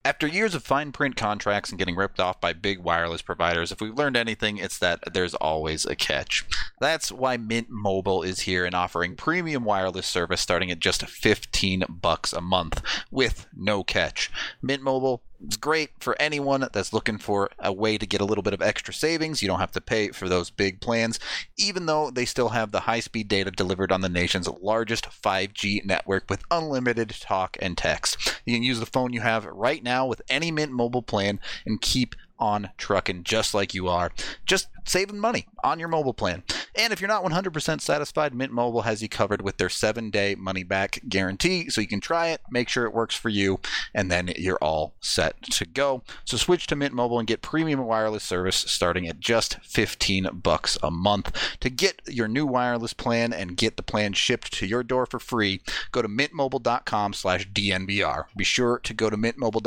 After years of fine print contracts and getting ripped off by big wireless providers, if we've learned anything, it's that there's always a catch. That's why Mint Mobile is here and offering premium wireless service starting at just $15 a month with no catch. Mint Mobile is great for anyone that's looking for a way to get a little bit of extra savings. You don't have to pay for those big plans, even though they still have the high-speed data delivered on the nation's largest 5G network with unlimited talk and text. You can use the phone you have right now with any Mint Mobile plan and keep on trucking just like you are, just saving money on your mobile plan. And if you're not 100% satisfied, Mint Mobile has you covered with their 7-day money-back guarantee, so you can try it, make sure it works for you, and then you're all set to go. So switch to Mint Mobile and get premium wireless service starting at just $15 a month. To get your new wireless plan and get the plan shipped to your door for free, go to mintmobile.com/DNVR. Be sure to go to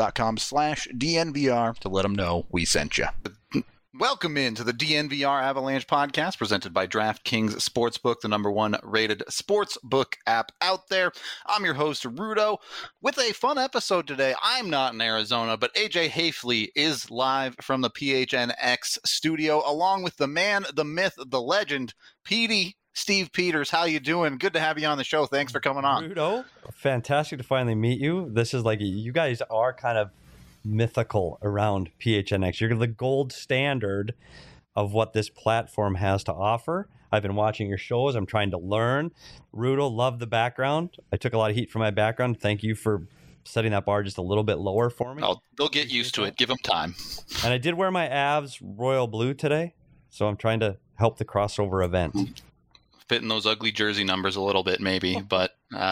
mintmobile.com/DNVR to let them know we sent you. Welcome into the DNVR Avalanche podcast presented by DraftKings Sportsbook, the #1 rated sportsbook app out there. I'm your host, Rudo, with a fun episode today. I'm not in Arizona, but AJ Hafley is live from the PHNX studio, along with the man, the myth, the legend, Petey. Steve Peters, how you doing? Good to have you on the show. Thanks for coming on. Rudo, fantastic to finally meet you. This is like, you guys are kind of mythical around PHNX. You're the gold standard of what this platform has to offer. I've been watching your shows. I'm trying to learn. Rudo, love the background. I took a lot of heat for my background. Thank you for setting that bar just a little bit lower for me. Oh, they'll get used to it. Give them time. And I did wear my Avs royal blue today, so I'm trying to help the crossover event. Fitting those ugly jersey numbers a little bit, maybe, but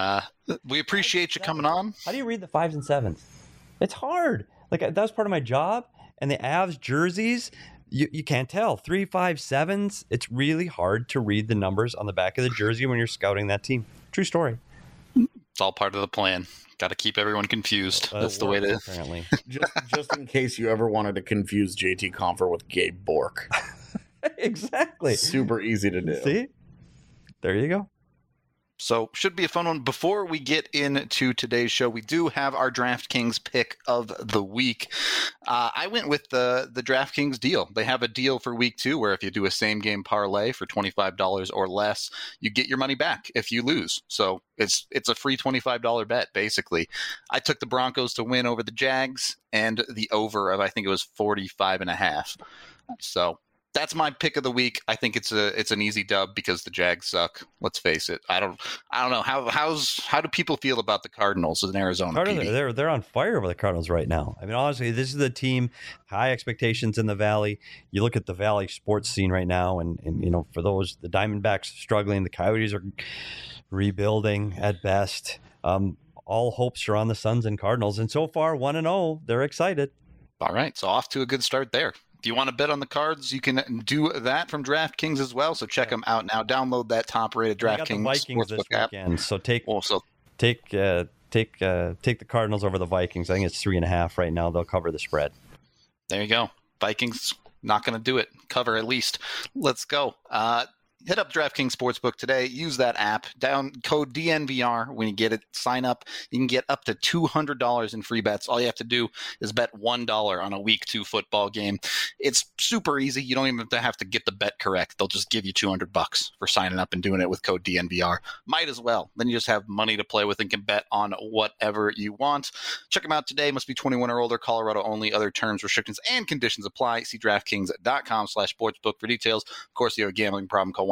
we appreciate you coming on. How do you read the 5s and 7s? It's hard. Like, that was part of my job. And the Avs jerseys, you can't tell. 3, 5, 7s. It's really hard to read the numbers on the back of the jersey when you're scouting that team. True story. It's all part of the plan. Got to keep everyone confused. That's the way to. Apparently. just in case you ever wanted to confuse JT Compher with Gabe Bork. Exactly. Super easy to do. See? There you go. So should be a fun one. Before we get into today's show, we do have our DraftKings pick of the week. I went with the DraftKings deal. They have a deal for week 2 where if you do a same game parlay for $25 or less, you get your money back if you lose. So it's a free $25 bet, basically. I took the Broncos to win over the Jags and the over of, I think it was 45.5. So that's my pick of the week. I think it's an easy dub because the Jags suck. Let's face it. I don't know how do people feel about the Cardinals in Arizona? They're on fire over the Cardinals right now. I mean, honestly, this is the team, high expectations in the Valley. You look at the Valley sports scene right now, and you know, for those, the Diamondbacks struggling, the Coyotes are rebuilding at best. All hopes are on the Suns and Cardinals, and so far 1-0. They're excited. All right, so off to a good start there. If you want to bet on the Cards, you can do that from DraftKings as well. So check them out now. Download that top-rated DraftKings Sportsbook app. So take the Cardinals over the Vikings. I think it's 3.5 right now. They'll cover the spread. There you go. Vikings not going to do it. Cover at least. Let's go. Hit up DraftKings Sportsbook today. Use that app. Down code DNVR when you get it. Sign up. You can get up to $200 in free bets. All you have to do is bet $1 on a week 2 football game. It's super easy. You don't even have to get the bet correct. They'll just give you $200 for signing up and doing it with code DNVR. Might as well. Then you just have money to play with and can bet on whatever you want. Check them out today. Must be 21 or older. Colorado only. Other terms, restrictions, and conditions apply. See DraftKings.com/sportsbook for details. Of course, if you have a gambling problem, call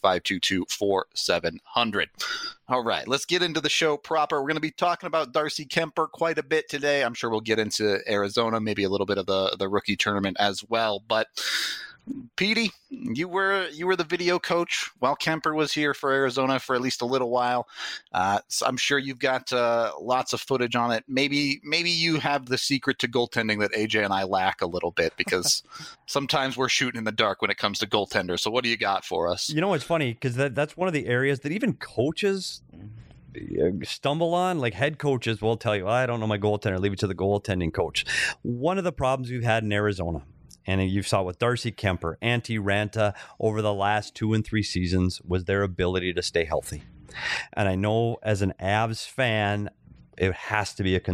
1-800-522-4700. All right, let's get into the show proper. We're going to be talking about Darcy Kuemper quite a bit today. I'm sure we'll get into Arizona, maybe a little bit of the rookie tournament as well. But Petey, you were the video coach while Kuemper was here for Arizona for at least a little while. So I'm sure you've got lots of footage on it. Maybe you have the secret to goaltending that AJ and I lack a little bit, because sometimes we're shooting in the dark when it comes to goaltenders. So what do you got for us? You know, it's funny because that's one of the areas that even coaches stumble on. Like, head coaches will tell you, I don't know my goaltender, leave it to the goaltending coach. One of the problems we've had in Arizona, and you saw with Darcy Kuemper, Antti Raanta over the last 2 and 3 seasons, was their ability to stay healthy. And I know as an Avs fan, it has to be a concern.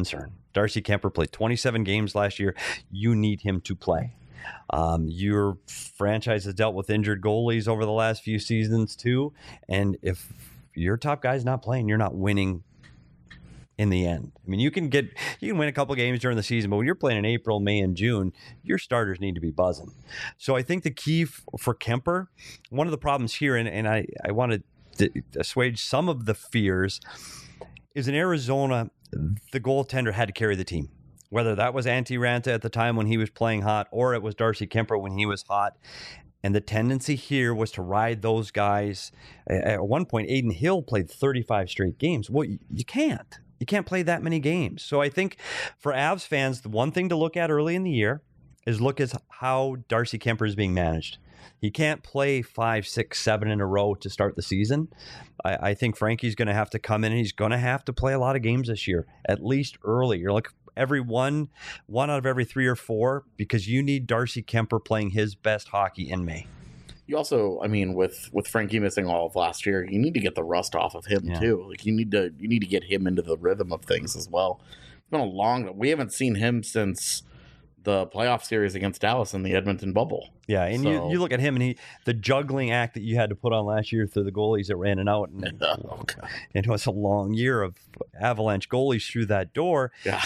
Darcy Kemper played 27 games last year. You need him to play. Your franchise has dealt with injured goalies over the last few seasons too. And if your top guy's not playing, you're not winning in the end. I mean, you can win a couple games during the season, but when you're playing in April, May, and June, your starters need to be buzzing. So I think the key for Kemper, one of the problems here, and I want to assuage some of the fears, is in Arizona, the goaltender had to carry the team. Whether that was Antti Raanta at the time when he was playing hot, or it was Darcy Kemper when he was hot. And the tendency here was to ride those guys. At one point, Aiden Hill played 35 straight games. Well, you can't. You can't play that many games. So I think for Avs fans, the one thing to look at early in the year is look at how Darcy Kemper is being managed. He can't play 5, 6, 7 in a row to start the season. I think Frankie's going to have to come in and he's going to have to play a lot of games this year, at least early. You're like every one out of every 3 or 4, because you need Darcy Kemper playing his best hockey in May. You also, I mean, with Frankie missing all of last year, you need to get the rust off of him too. Like you need to get him into the rhythm of things as well. It's been we haven't seen him since the playoff series against Dallas in the Edmonton bubble. Yeah, and you look at him and the juggling act that you had to put on last year through the goalies that ran and out, and it was a long year of Avalanche goalies through that door. Yeah,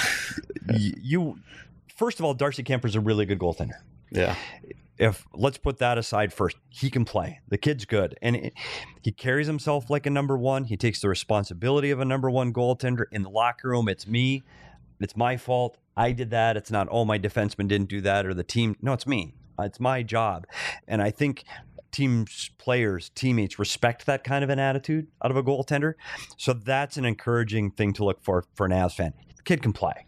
first of all, Darcy Kemper's a really good goaltender. Yeah. Let's put that aside first. He can play. The kid's good. And he carries himself like a number one. He takes the responsibility of a number one goaltender. In the locker room, it's me. It's my fault. I did that. It's not, my defenseman didn't do that or the team. No, it's me. It's my job. And I think teams, players, teammates respect that kind of an attitude out of a goaltender. So that's an encouraging thing to look for an Avs fan. The kid can play.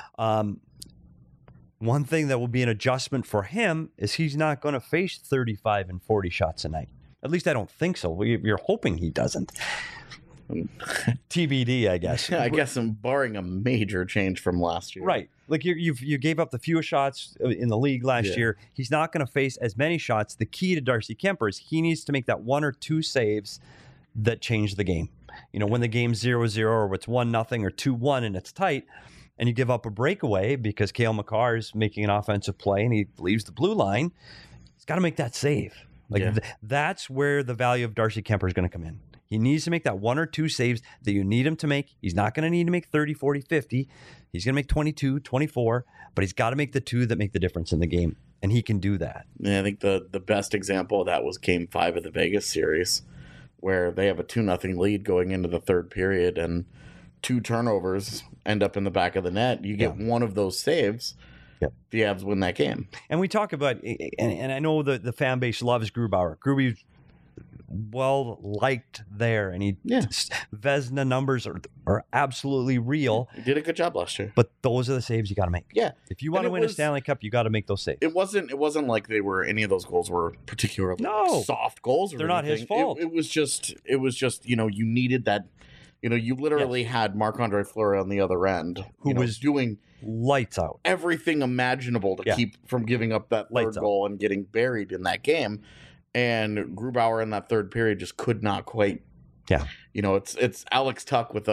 One thing that will be an adjustment for him is he's not going to face 35 and 40 shots a night. At least I don't think so. You're hoping he doesn't. TBD, I guess. I guess I'm barring a major change from last year. Right. Like you gave up the fewest shots in the league last year. He's not going to face as many shots. The key to Darcy Kemper is he needs to make that 1 or 2 saves that change the game. You know, when the game's 0-0 or it's 1-0 or 2-1 and it's tight, and you give up a breakaway because Cale Makar is making an offensive play and he leaves the blue line, he's got to make that save. That's where the value of Darcy Kemper is going to come in. He needs to make that 1 or 2 saves that you need him to make. He's not going to need to make 30, 40, 50. He's going to make 22, 24, but he's got to make the 2 that make the difference in the game, and he can do that. Yeah, I think the best example of that was Game 5 of the Vegas series, where they have a 2-0 lead going into the third period, and 2 turnovers end up in the back of the net. You get one of those saves, the Avs win that game. And we talk about, and I know the fan base loves Grubauer. Gruby's well liked there, and Vezina numbers are absolutely real. He did a good job last year. But those are the saves you got to make. Yeah, if you want to win a Stanley Cup, you got to make those saves. It wasn't like any of those goals were particularly soft goals. They're not his fault. It was just you needed that. You literally had Marc-Andre Fleury on the other end, who was doing lights out everything imaginable to keep from giving up that third goal and getting buried in that game. And Grubauer in that third period just could not quite. Yeah, it's Alex Tuch with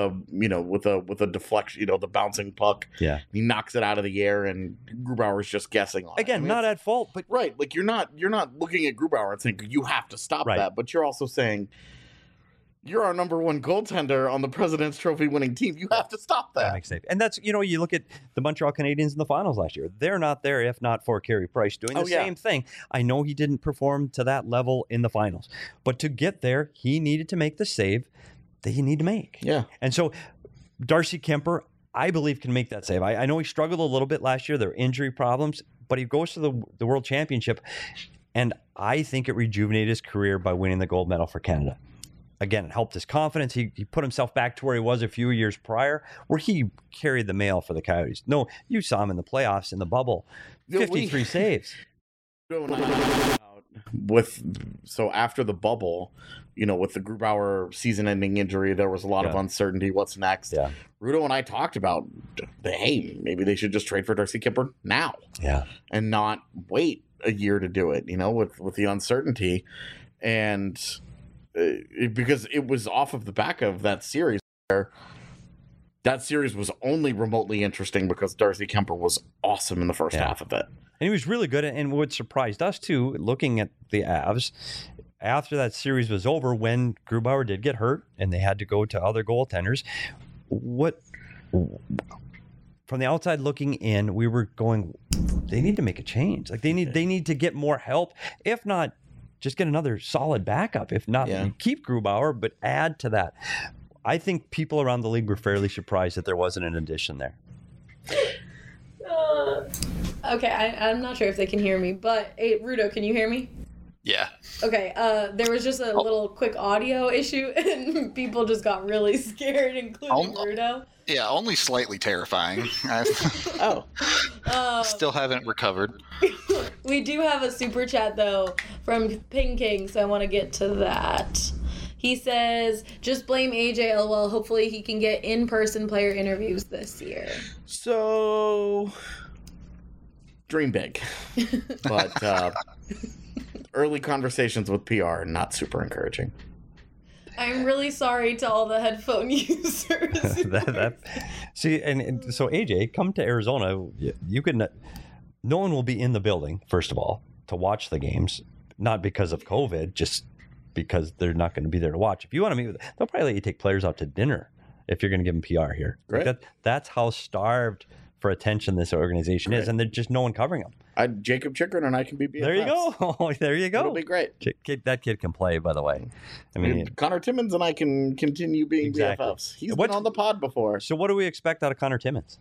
a deflection, the bouncing puck. Yeah, he knocks it out of the air, and Grubauer's just guessing on it. Again, not at fault, but right, like you're not looking at Grubauer and saying you have to stop that, but you're also saying, you're our number one goaltender on the President's Trophy winning team. You have to stop that. That makes sense. And that's, you look at the Montreal Canadiens in the finals last year. They're not there if not for Carey Price doing the same thing. I know he didn't perform to that level in the finals, but to get there, he needed to make the save that he needed to make. Yeah. And so Darcy Kemper, I believe, can make that save. I know he struggled a little bit last year. There were injury problems, but he goes to the World Championship, and I think it rejuvenated his career by winning the gold medal for Canada. Again, it helped his confidence. He put himself back to where he was a few years prior, where he carried the mail for the Coyotes. No, you saw him in the playoffs in the bubble. 53 saves. So after the bubble, with the Grubauer season-ending injury, there was a lot of uncertainty. What's next? Yeah. Rudo and I talked about, maybe they should just trade for Darcy Kemper now. Yeah. And not wait a year to do it, with the uncertainty. And because it was off of the back of that series where that series was only remotely interesting because Darcy Kemper was awesome in the first half of it. And he was really good. And what surprised us, too, looking at the Avs, after that series was over, when Grubauer did get hurt and they had to go to other goaltenders, from the outside looking in, we were going, they need to make a change. Like they need to get more help. If not, just get another solid backup. If not, keep Grubauer, but add to that. I think people around the league were fairly surprised that there wasn't an addition there. Okay, I'm not sure if they can hear me, but hey, Rudo, can you hear me? Yeah. Okay, there was just a little quick audio issue, and people just got really scared, including Rudo. Yeah, only slightly terrifying. Still haven't recovered. We do have a super chat, though, from Ping King, so I want to get to that. He says, just blame AJ, LOL. Hopefully he can get in-person player interviews this year. So, dream big. But early conversations with PR are not super encouraging. I'm really sorry to all the headphone users. See, and so AJ, come to Arizona. You can. No one will be in the building, first of all, to watch the games. Not because of COVID, just because they're not going to be there to watch. If you want to meet with them, they'll probably let you take players out to dinner if you're going to give them PR here. Right. Like that's how starved for attention this organization is, and there's just no one covering them. Jacob Chikrin and I can be BFFs. There you go. There you go. It'll be great. That kid can play, by the way. I mean, Connor Timmins and I can continue being BFFs. He's been on the pod before. So what do we expect out of Connor Timmins?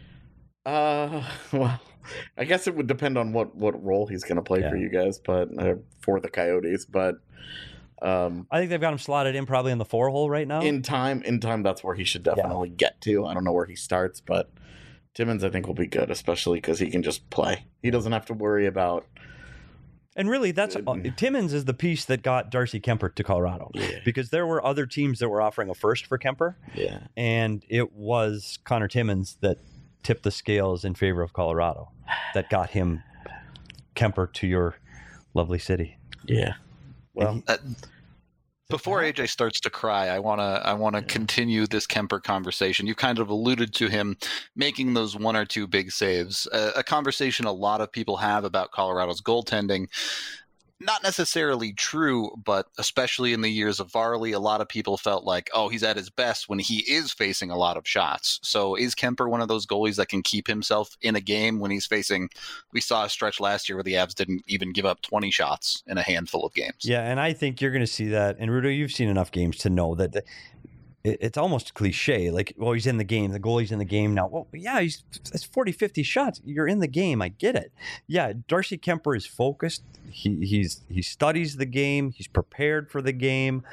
Well, I guess it would depend on what role he's going to play for you guys, but for the Coyotes. But I think they've got him slotted in probably in the 4-hole right now. In time, that's where he should definitely get to. I don't know where he starts, but Timmins I think will be good, especially because he can just play. He doesn't have to worry about. And really, Timmins is the piece that got Darcy Kemper to Colorado, because there were other teams that were offering a first for Kemper, and it was Connor Timmins that tipped the scales in favor of Colorado, that got him Kemper to your lovely city. Yeah. Well, before AJ starts to cry, I wanna continue this Kemper conversation. You kind of alluded to him making those one or two big saves, a conversation a lot of people have about Colorado's goaltending. Not necessarily true, but especially in the years of Varley, a lot of people felt like, oh, he's at his best when he is facing a lot of shots. So is Kemper one of those goalies that can keep himself in a game when he's facing, we saw a stretch last year where the Avs didn't even give up 20 shots in a handful of games. Yeah, and I think you're going to see that. And Rudo, you've seen enough games to know that it's almost cliche. Like, well, he's in the game. The goalie's in the game now. Well, yeah, it's 40, 50 shots. You're in the game. I get it. Yeah, Darcy Kemper is focused. He studies the game. He's prepared for the game.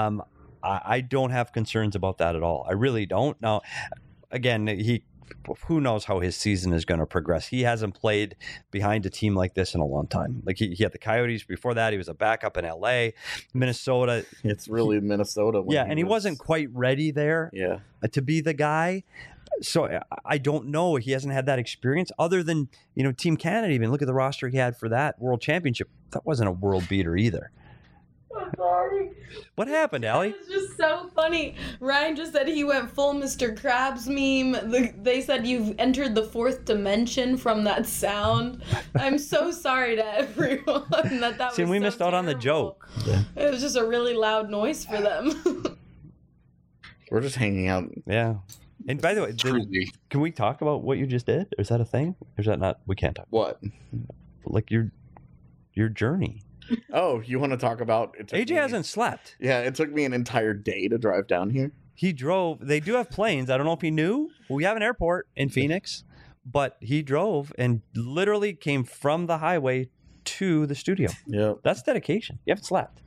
I don't have concerns about that at all. I really don't. Now, again, who knows how his season is going to progress. He hasn't played behind a team like this in a long time. Like he had the Coyotes before that. He was a backup in LA, Minnesota. It's really Minnesota. And he wasn't quite ready there to be the guy. So I don't know. He hasn't had that experience other than, Team Canada. Even look at the roster he had for that World Championship. That wasn't a world beater either. I'm sorry. What happened, Allie? It's just so funny. Ryan just said he went full Mr. Krabs meme. They said you've entered the fourth dimension from that sound. I'm so sorry to everyone that was. See, we so missed out on the joke. Yeah. It was just a really loud noise for them. We're just hanging out. Yeah. And by the way, can we talk about what you just did? Is that a thing? Or is that not? We can't talk. What? Like your journey. Oh, you want to talk about it? AJ hasn't slept. Yeah, it took me an entire day to drive down here. He drove. They do have planes. I don't know if he knew. We have an airport in Phoenix, but he drove and literally came from the highway to the studio. Yeah. That's dedication. You haven't slept.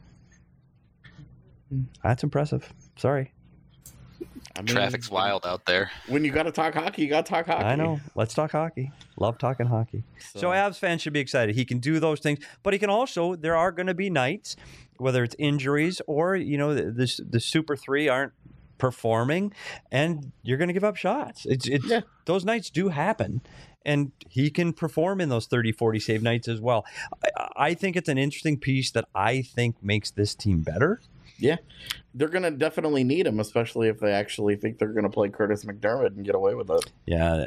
That's impressive. Sorry. I mean, traffic's wild out there. When you got to talk hockey, you got to talk hockey. I know. Let's talk hockey. Love talking hockey. So Avs fans should be excited. He can do those things, but he can also, there are going to be nights, whether it's injuries or, the Super 3 aren't performing, and you're going to give up shots. Those nights do happen, and he can perform in those 30, 40 save nights as well. I think it's an interesting piece that I think makes this team better. Yeah, they're going to definitely need him, especially if they actually think they're going to play Curtis McDermott and get away with it. Yeah,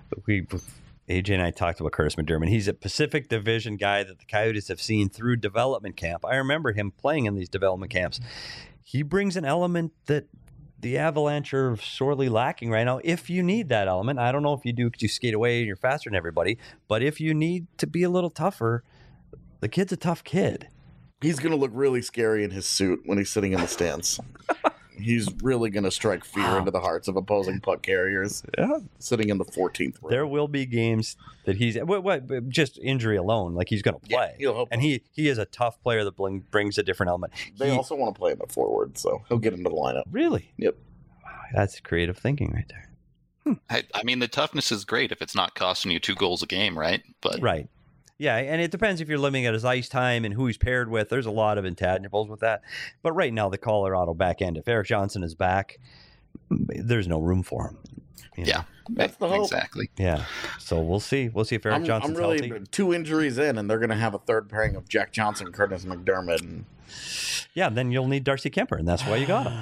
AJ and I talked about Curtis McDermott. He's a Pacific Division guy that the Coyotes have seen through development camp. I remember him playing in these development camps. He brings an element that the Avalanche are sorely lacking right now. If you need that element, I don't know if you do because you skate away and you're faster than everybody, but if you need to be a little tougher, the kid's a tough kid. He's going to look really scary in his suit when he's sitting in the stands. He's really going to strike fear into the hearts of opposing puck carriers. Yeah. Sitting in the 14th row. There will be games that he's just injury alone, like he's going to play. Yeah, he'll hope. And he is a tough player that brings a different element. They also want to play him at forward, so he'll get into the lineup. Really? Yep. Wow, that's creative thinking right there. I mean, the toughness is great if it's not costing you 2 goals a game, right? But Right. Yeah, and it depends if you're looking at his ice time and who he's paired with. There's a lot of intangibles with that. But right now, the Colorado back end, if Erik Johnson is back, there's no room for him. You know? yeah, That's the hope. exactly. Yeah. So we'll see. We'll see if Erik Johnson's I'm really healthy. 2 injuries in, and they're going to have a third pairing of Jack Johnson, Curtis McDermott, and Yeah, then you'll need Darcy Kemper, and that's why you got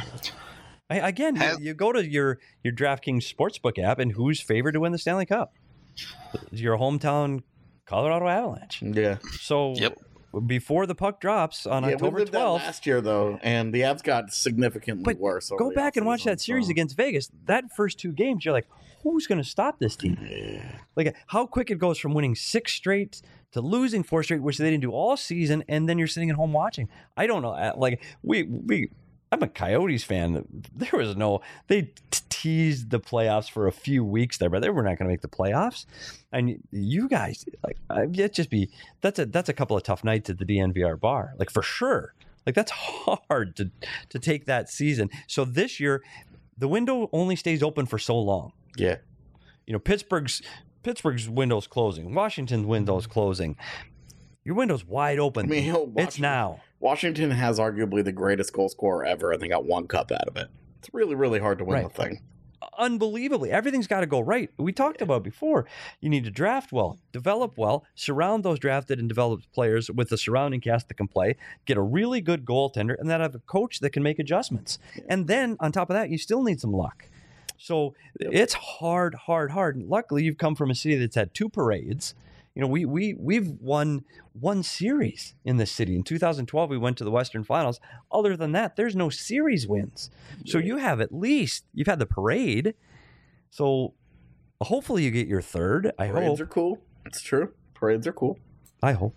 him. You go to your DraftKings Sportsbook app, and who's favored to win the Stanley Cup? Your hometown Colorado Avalanche. yeah. So before the puck drops on October we lived that 12th, last year though, and the Avs got significantly But worse. over go the back and watch offseason, that series so- against Vegas. That first 2 games, you're like, who's going to stop this team? Like how quick it goes from winning 6 straight to losing 4 straight, which they didn't do all season, and then you're sitting at home watching. I don't know. Like I'm a Coyotes fan. There was they teased the playoffs for a few weeks there, but they were not going to make the playoffs. And you guys, that's a couple of tough nights at the DNVR bar, like for sure. Like that's hard to take that season. So this year, the window only stays open for so long. Yeah. You know, Pittsburgh's window's closing. Washington's window's closing. Your window's wide open. I mean, it's now. Washington has arguably the greatest goal scorer ever, and they got 1 cup out of it. It's really, really hard to win the thing. Unbelievably. Everything's got to go right. We talked about before. You need to draft well, develop well, surround those drafted and developed players with the surrounding cast that can play, get a really good goaltender, and then have a coach that can make adjustments. And then on top of that, you still need some luck. So it's hard. Luckily, you've come from a city that's had 2 parades. You know, we've won 1 series in this city. In 2012, we went to the Western Finals. Other than that, there's no series wins. So you've had the parade. So hopefully you get your 3rd. Parades are cool. It's true. Parades are cool. I hope.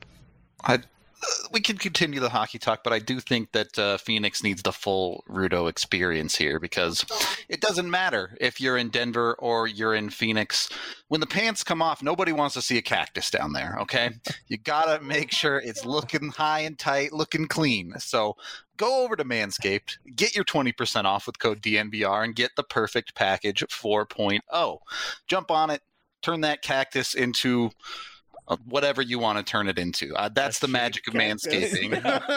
We can continue the hockey talk, but I do think that Phoenix needs the full Rudo experience here because it doesn't matter if you're in Denver or you're in Phoenix. When the pants come off, nobody wants to see a cactus down there, okay? You got to make sure it's looking high and tight, looking clean. So go over to Manscaped, get your 20% off with code DNVR, and get the perfect package 4.0. Jump on it, turn that cactus into whatever you want to turn it into. That's the magic of manscaping.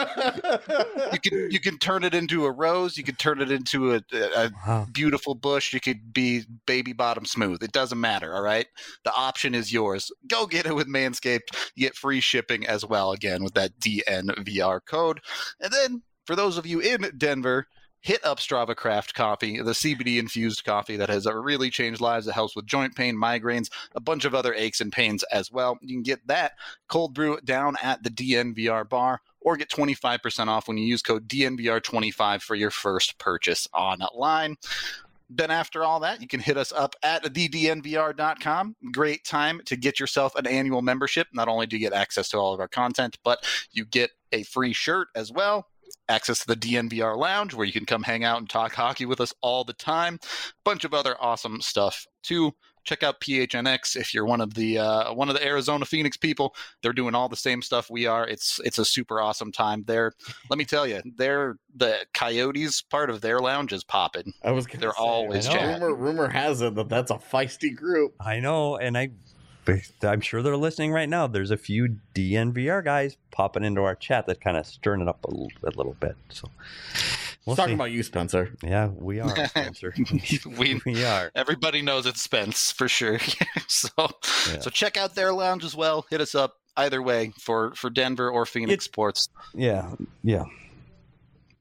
You can turn it into a rose. You could turn it into a beautiful bush. You could be baby bottom smooth. It doesn't matter. All right. The option is yours. Go get it with Manscaped. You get free shipping as well. Again, with that DNVR code. And then for those of you in Denver, hit up Strava Craft Coffee, the CBD-infused coffee that has really changed lives. It helps with joint pain, migraines, a bunch of other aches and pains as well. You can get that cold brew down at the DNVR bar or get 25% off when you use code DNVR25 for your first purchase online. Then after all that, you can hit us up at thednvr.com. Great time to get yourself an annual membership. Not only do you get access to all of our content, but you get a free shirt as well. Access to the DNVR Lounge, where you can come hang out and talk hockey with us all the time. Bunch of other awesome stuff too. Check out PHNX if you're one of the Arizona Phoenix people. They're doing all the same stuff we are. It's a super awesome time there. Let me tell you, the Coyotes part of their lounge is popping. They're always chatting. Rumor has it that that's a feisty group. I know, and I'm sure they're listening right now. There's a few DNVR guys popping into our chat that kind of stirring it up a little bit. So we'll talking about you, Spencer. Yeah, we are, Spencer. we are. Everybody knows it's Spence for sure. So check out their lounge as well. Hit us up either way for Denver or Phoenix sports. Yeah.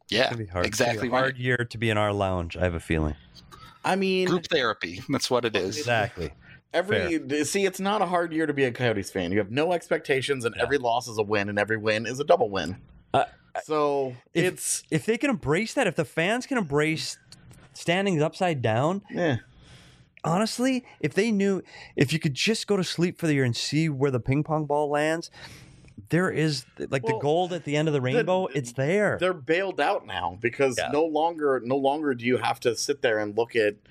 Yeah, It's gonna be hard. exactly It's gonna be a hard right. year to be in our lounge. I have a feeling. I mean, Group therapy. That's what it is. Exactly. see, it's not a hard year to be a Coyotes fan. You have no expectations, and every loss is a win, and every win is a double win. So If they can embrace that, if the fans can embrace standings upside down, honestly, if you could just go to sleep for the year and see where the ping pong ball lands, there is like the gold at the end of the rainbow. It's there. They're bailed out now because no longer do you have to sit there and look at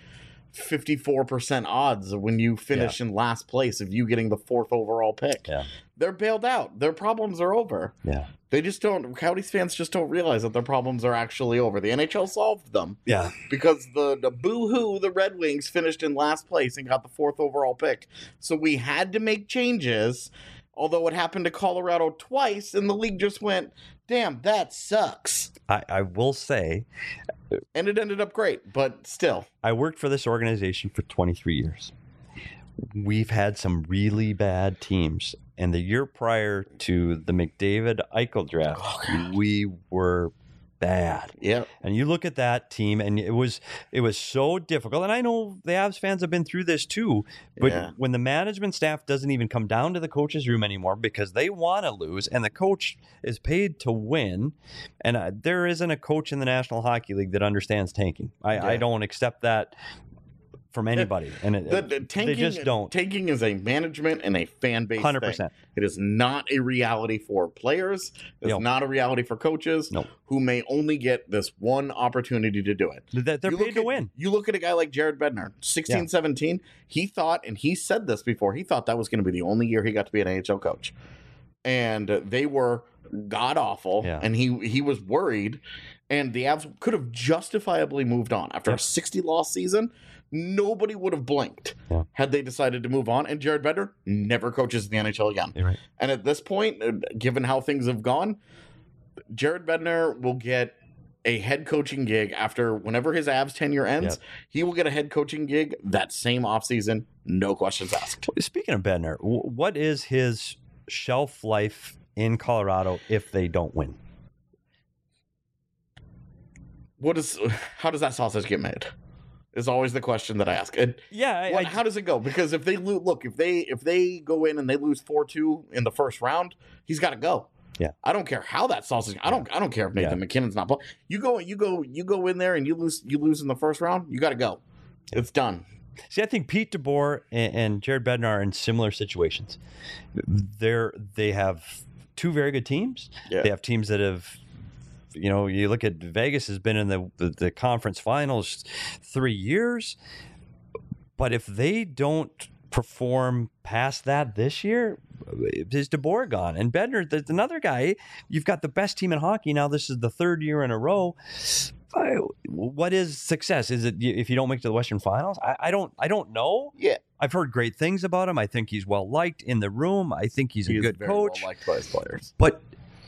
54% odds when you finish in last place of you getting the 4th overall pick. Yeah. They're bailed out. Their problems are over. Yeah. They just don't. Coyotes fans just don't realize that their problems are actually over. The NHL solved them. Yeah. Because the boo-hoo, the Red Wings finished in last place and got the 4th overall pick. So we had to make changes, although it happened to Colorado twice, and the league just went, damn, that sucks. I will say, and it ended up great, but still. I worked for this organization for 23 years. We've had some really bad teams. And the year prior to the McDavid Eichel draft, we were bad. Yeah. And you look at that team, and it was so difficult. And I know the Avs fans have been through this too. But when the management staff doesn't even come down to the coach's room anymore because they want to lose, and the coach is paid to win, and there isn't a coach in the National Hockey League that understands tanking. I don't accept that from anybody, and they just don't. Tanking is a management and a fan base 100%. thing. It is not a reality for players. It's not a reality for coaches who may only get this one opportunity to do it. They're paid to win. You look at a guy like Jared Bednar, 16, 17. He thought, and he said this before, he thought that was going to be the only year he got to be an NHL coach. And they were god-awful, and he was worried. And the Avs could have justifiably moved on. After a 60-loss season, nobody would have blinked had they decided to move on. And Jared Bednar never coaches in the NHL again. You're right. And at this point, given how things have gone, Jared Bednar will get a head coaching gig after whenever his Avs tenure ends. He will get a head coaching gig that same offseason, no questions asked. Speaking of Bednar, what is his shelf life in Colorado if they don't win? How does that sausage get made? Is always the question that I ask. How does it go? Because if they if they go in and they lose 4-2 in the first round, he's got to go. Yeah, I don't care how that sausage. I don't care if Nathan McKinnon's not playing. You go in there and you lose in the first round. You got to go. It's done. See, I think Pete DeBoer and Jared Bednar are in similar situations. They have two very good teams. Yeah. They have teams that have. You look at Vegas has been in the conference finals 3 years, but if they don't perform past that this year, is DeBoer gone? And Bednar, there's another guy. You've got the best team in hockey now. This is the 3rd year in a row. What is success? Is it if you don't make it to the Western Finals? I don't know. Yeah, I've heard great things about him. I think he's well liked in the room. I think he's a good coach. Well liked by his players, but.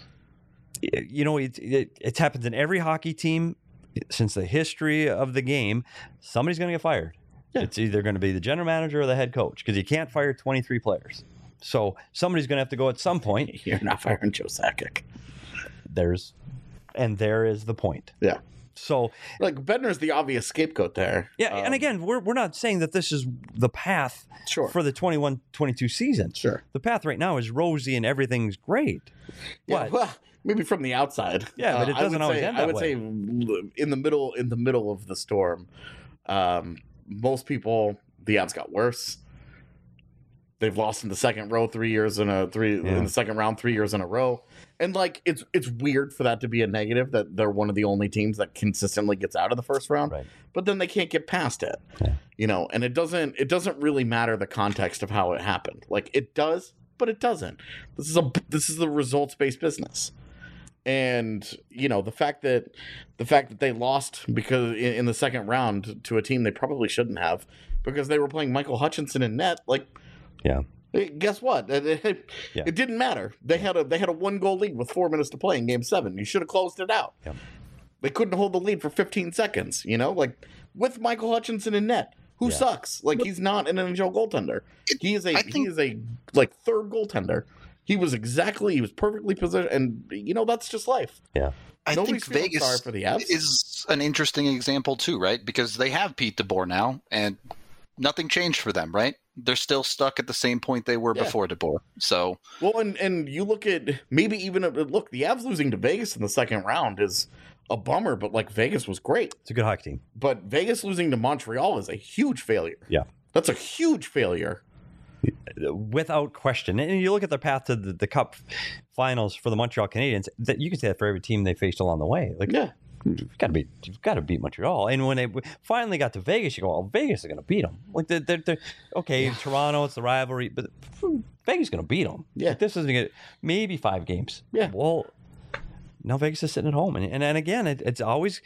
It's happened in every hockey team since the history of the game. Somebody's going to get fired. Yeah. It's either going to be the general manager or the head coach because you can't fire 23 players. So somebody's going to have to go at some point. You're not firing Joe Sakic. There is the point. Yeah. So Bednar's the obvious scapegoat there. Yeah, and again, we're not saying that this is the path for the 21-22 season. Sure. The path right now is rosy and everything's great. Yeah, well, maybe from the outside. Yeah, but it doesn't always end that way. I would say in the middle of the storm, most people, the Avs got worse. They've lost in the second row 3 years in the second round 3 years in a row. And it's weird for that to be a negative that they're one of the only teams that consistently gets out of the first round. Right. But then they can't get past it. Yeah. And it doesn't really matter the context of how it happened. It does, but it doesn't. This is the results-based business. And the fact that they lost because in the second round to a team they probably shouldn't have because they were playing Michael Hutchinson in net, guess what? It didn't matter. They had a 1-goal lead with 4 minutes to play in Game 7. You should have closed it out. Yeah. They couldn't hold the lead for 15 seconds. With Michael Hutchinson in net, who sucks. He's not an NHL goaltender. He is a 3rd goaltender. He was perfectly positioned, and that's just life. Yeah. I Nobody's think feeling sorry Vegas for the Avs. is an interesting example too, right? Because they have Pete DeBoer now, and nothing changed for them, right? They're still stuck at the same point they were before DeBoer. So, well, and you look at maybe even look, the Avs losing to Vegas in the second round is a bummer, but like Vegas was great. It's a good hockey team. But Vegas losing to Montreal is a huge failure. Yeah. That's a huge failure. Without question. And you look at their path to the Cup finals for the Montreal Canadiens, that you can say that for every team they faced along the way. Like, Yeah. you've got to beat Montreal. And when they finally got to Vegas, you go, "Oh, Vegas is going to beat them." Like they're okay. Toronto, it's the rivalry, but Vegas is going to beat them. Yeah. Like, this isn't maybe 5 games. Yeah. Well, now Vegas is sitting at home, and again, it's always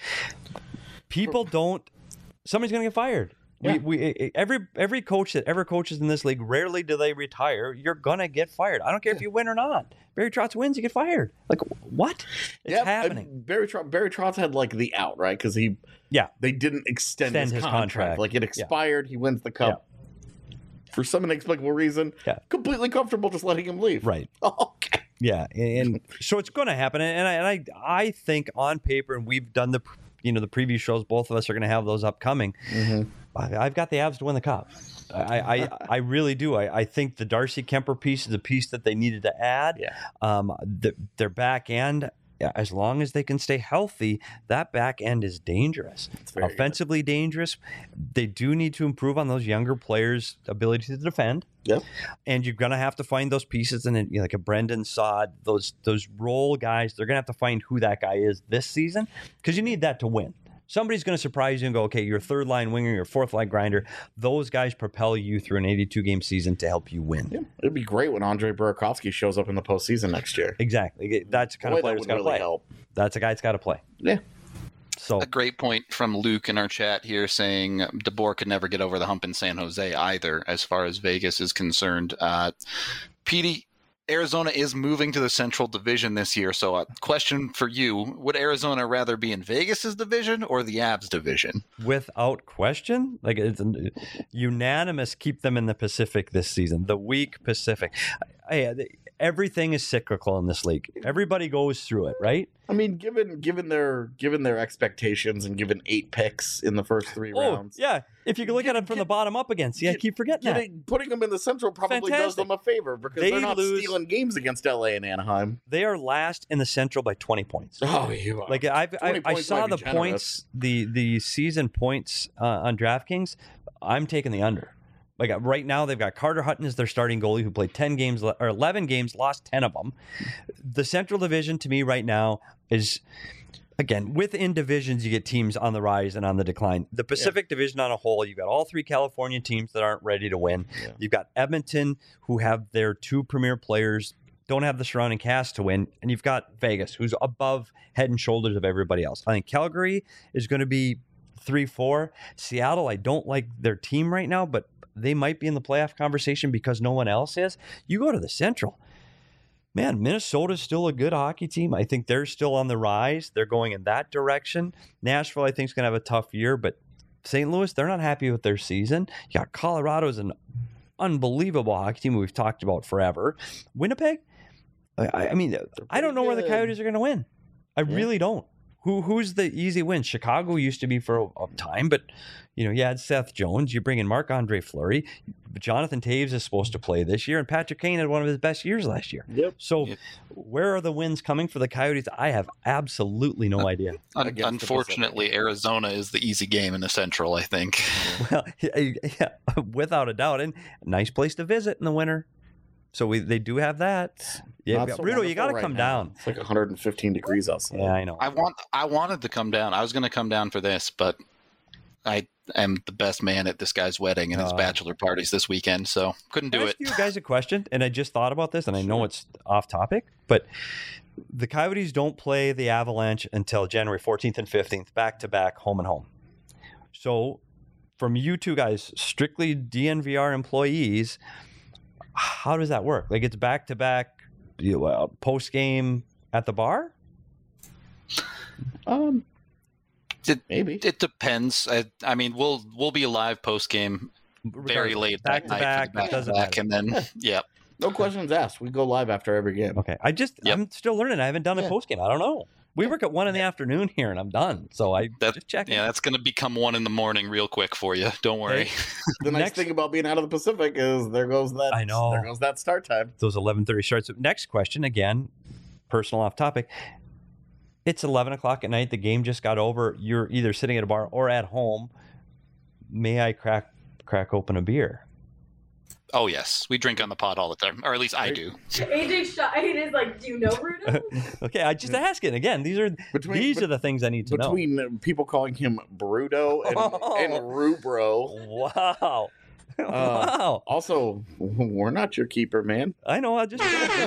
people don't. Somebody's going to get fired. Yeah. Every coach that ever coaches in this league, rarely do they retire. You're gonna get fired. I don't care if you win or not. Barry Trotz wins, you get fired. Like, what? It's happening. Barry Trotz had like the out, right? Because they didn't extend his contract. Like it expired. He wins the Cup. For some inexplicable reason. Yeah. Completely comfortable just letting him leave. Right. Okay. Yeah, and so it's going to happen. And I think on paper, and we've done the preview shows. Both of us are going to have those upcoming. Mm-hmm. I've got the Avs to win the Cup. I really do. I think the Darcy Kemper piece is a piece that they needed to add. Yeah. Their back end, as long as they can stay healthy, that back end is dangerous. Offensively dangerous. They do need to improve on those younger players' ability to defend. Yep. And you're going to have to find those pieces, and like a Brendan Saad, those role guys. They're going to have to find who that guy is this season, because you need that to win. Somebody's going to surprise you and go, okay, you're a third line winger, you're a fourth line grinder. Those guys propel you through an 82-game season to help you win. Yeah. It'd be great when Andre Burakovsky shows up in the postseason next year. Exactly. That's the kind of player that's got to play. Help. That's a guy that's got to play. Yeah. So a great point from Luke in our chat here saying DeBoer could never get over the hump in San Jose either, as far as Vegas is concerned. Petey, Arizona is moving to the Central Division this year. So a question for you, would Arizona rather be in Vegas's division or the Avs division? Without question, like it's unanimous, keep them in the Pacific this season, the weak Pacific. Everything is cyclical in this league. Everybody goes through it, right? I mean, given their expectations and given 8 picks in the first 3 rounds. Yeah. If you can look at it from the bottom up again, see, I keep forgetting that. Putting them in the Central probably does them a favor because they're not stealing games against LA and Anaheim. They are last in the Central by 20 points. Oh, you are. Like I saw the points, the season points on DraftKings. I'm taking the under. Like right now, they've got Carter Hutton as their starting goalie, who played 11 games, lost 10 of them. The Central Division, to me, right now is, again, within divisions, you get teams on the rise and on the decline. The Pacific Division on a whole, you've got all 3 California teams that aren't ready to win. Yeah. You've got Edmonton, who have their 2 premier players, don't have the surrounding cast to win, and you've got Vegas, who's above head and shoulders of everybody else. I think Calgary is going to be 3-4. Seattle, I don't like their team right now, but they might be in the playoff conversation because no one else is. You go to the Central. Man, Minnesota's still a good hockey team. I think they're still on the rise. They're going in that direction. Nashville, I think, is going to have a tough year, but St. Louis, they're not happy with their season. You got Colorado's an unbelievable hockey team we've talked about forever. Winnipeg, I mean, I don't know where the Coyotes are going to win. I really don't. Who's the easy win? Chicago used to be for a time, but you had Seth Jones. You bring in Marc-Andre Fleury. Jonathan Taves is supposed to play this year, and Patrick Kane had one of his best years last year. Yep. So where are the wins coming for the Coyotes? I have absolutely no idea. Unfortunately, Arizona is the easy game in the Central, I think. Well, yeah, without a doubt. And a nice place to visit in the winter. So they do have that. Yeah, Rudo, you got to come down. It's like 115 degrees outside. Yeah, I know. I wanted to come down. I was going to come down for this, but I am the best man at this guy's wedding and his bachelor parties this weekend, so couldn't do it. Can I ask you guys a question? And I just thought about this, and I know it's off topic, but the Coyotes don't play the Avalanche until January 14th and 15th, back-to-back, home and home. So from you two guys, strictly DNVR employees, how does that work? Like it's back-to-back post-game at the bar? Maybe. It depends. I mean, we'll be alive post-game very late back-to-back, and then, No questions asked. We go live after every game. Okay. Yep. I'm still learning. I haven't done a Yeah. post game. I don't know. We work at 1 in the afternoon here, and I'm done. So I just check. Yeah, that's going to become 1 a.m. real quick for you. Don't worry. The nice Next- thing about being out of the Pacific is there goes that. I know. There goes that start time. Those 11:30 starts. Next question, again, personal off topic. It's 11 o'clock at night. The game just got over. You're either sitting at a bar or at home. May I crack open a beer? Oh, yes. We drink on the pod all the time. Or at least I do. AJ Shine is like, do you know Rudo? Okay, I just asking. Again, these are the things I need to know. Between people calling him Bruto and Rubro. Wow. Wow. Also, we're not your keeper, man. I know. I just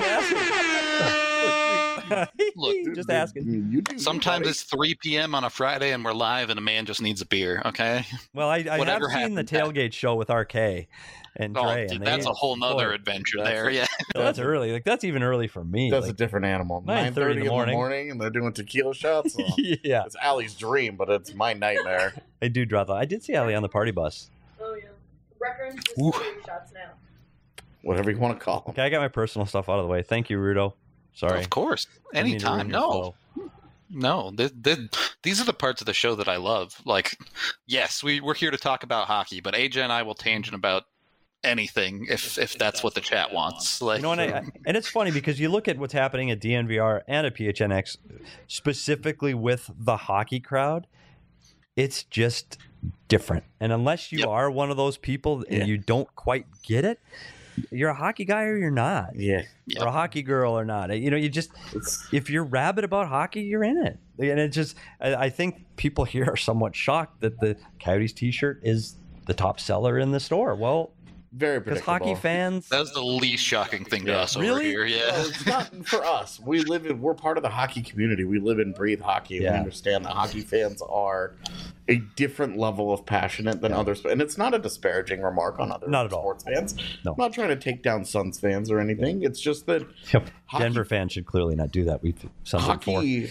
asking. Look, just asking. You do. Sometimes buddy. it's 3 p.m. on a Friday and we're live and a man just needs a beer, okay? Well, I have Whatever seen the happened, tailgate show with RK and Oh, Dre. dude, and that's a whole nother boy, adventure That's there. a- Yeah. that's early. Like that's even early for me. That's Like, a different animal. 9:30 9:30 in the morning, and they're doing tequila shots. Well, yeah, it's Allie's dream, but it's my nightmare. I do draw that. I did see Ali on the party bus. Oh, yeah. Reference Ooh. just shots now. Whatever you want to call them. Okay, I got my personal stuff out of the way. Thank you, Rudo. Sorry. Of course. Didn't mean to ruin Anytime. your No. flow. No, these are the parts of the show that I love. Like, yes, we're here to talk about hockey, but AJ and I will tangent about anything if that's what the chat wants. Like, You know, and it's funny because you look at what's happening at DNVR and at PHNX, specifically with the hockey crowd, it's just different. And unless you Yep. are one of those people and Yeah. you don't quite get it, you're a hockey guy or you're not. Yeah. Yep. Or a hockey girl or not. You know, you just It's, if you're rabid about hockey, you're in it. And it just I think people here are somewhat shocked that the Coyotes t-shirt is the top seller in the store. Well, very because predictable. hockey fans that was the least shocking thing to Yeah. us over Really? here. Yeah. Well, it's not for us. We're part of the hockey community. We live and breathe hockey. And Yeah. We understand that hockey fans are a different level of passionate than others. And it's not a disparaging remark on other Not at all. sports fans. No. I'm not trying to take down Suns fans or anything. It's just that Yep. hockey- Denver fans should clearly not do that. We've something for. hockey.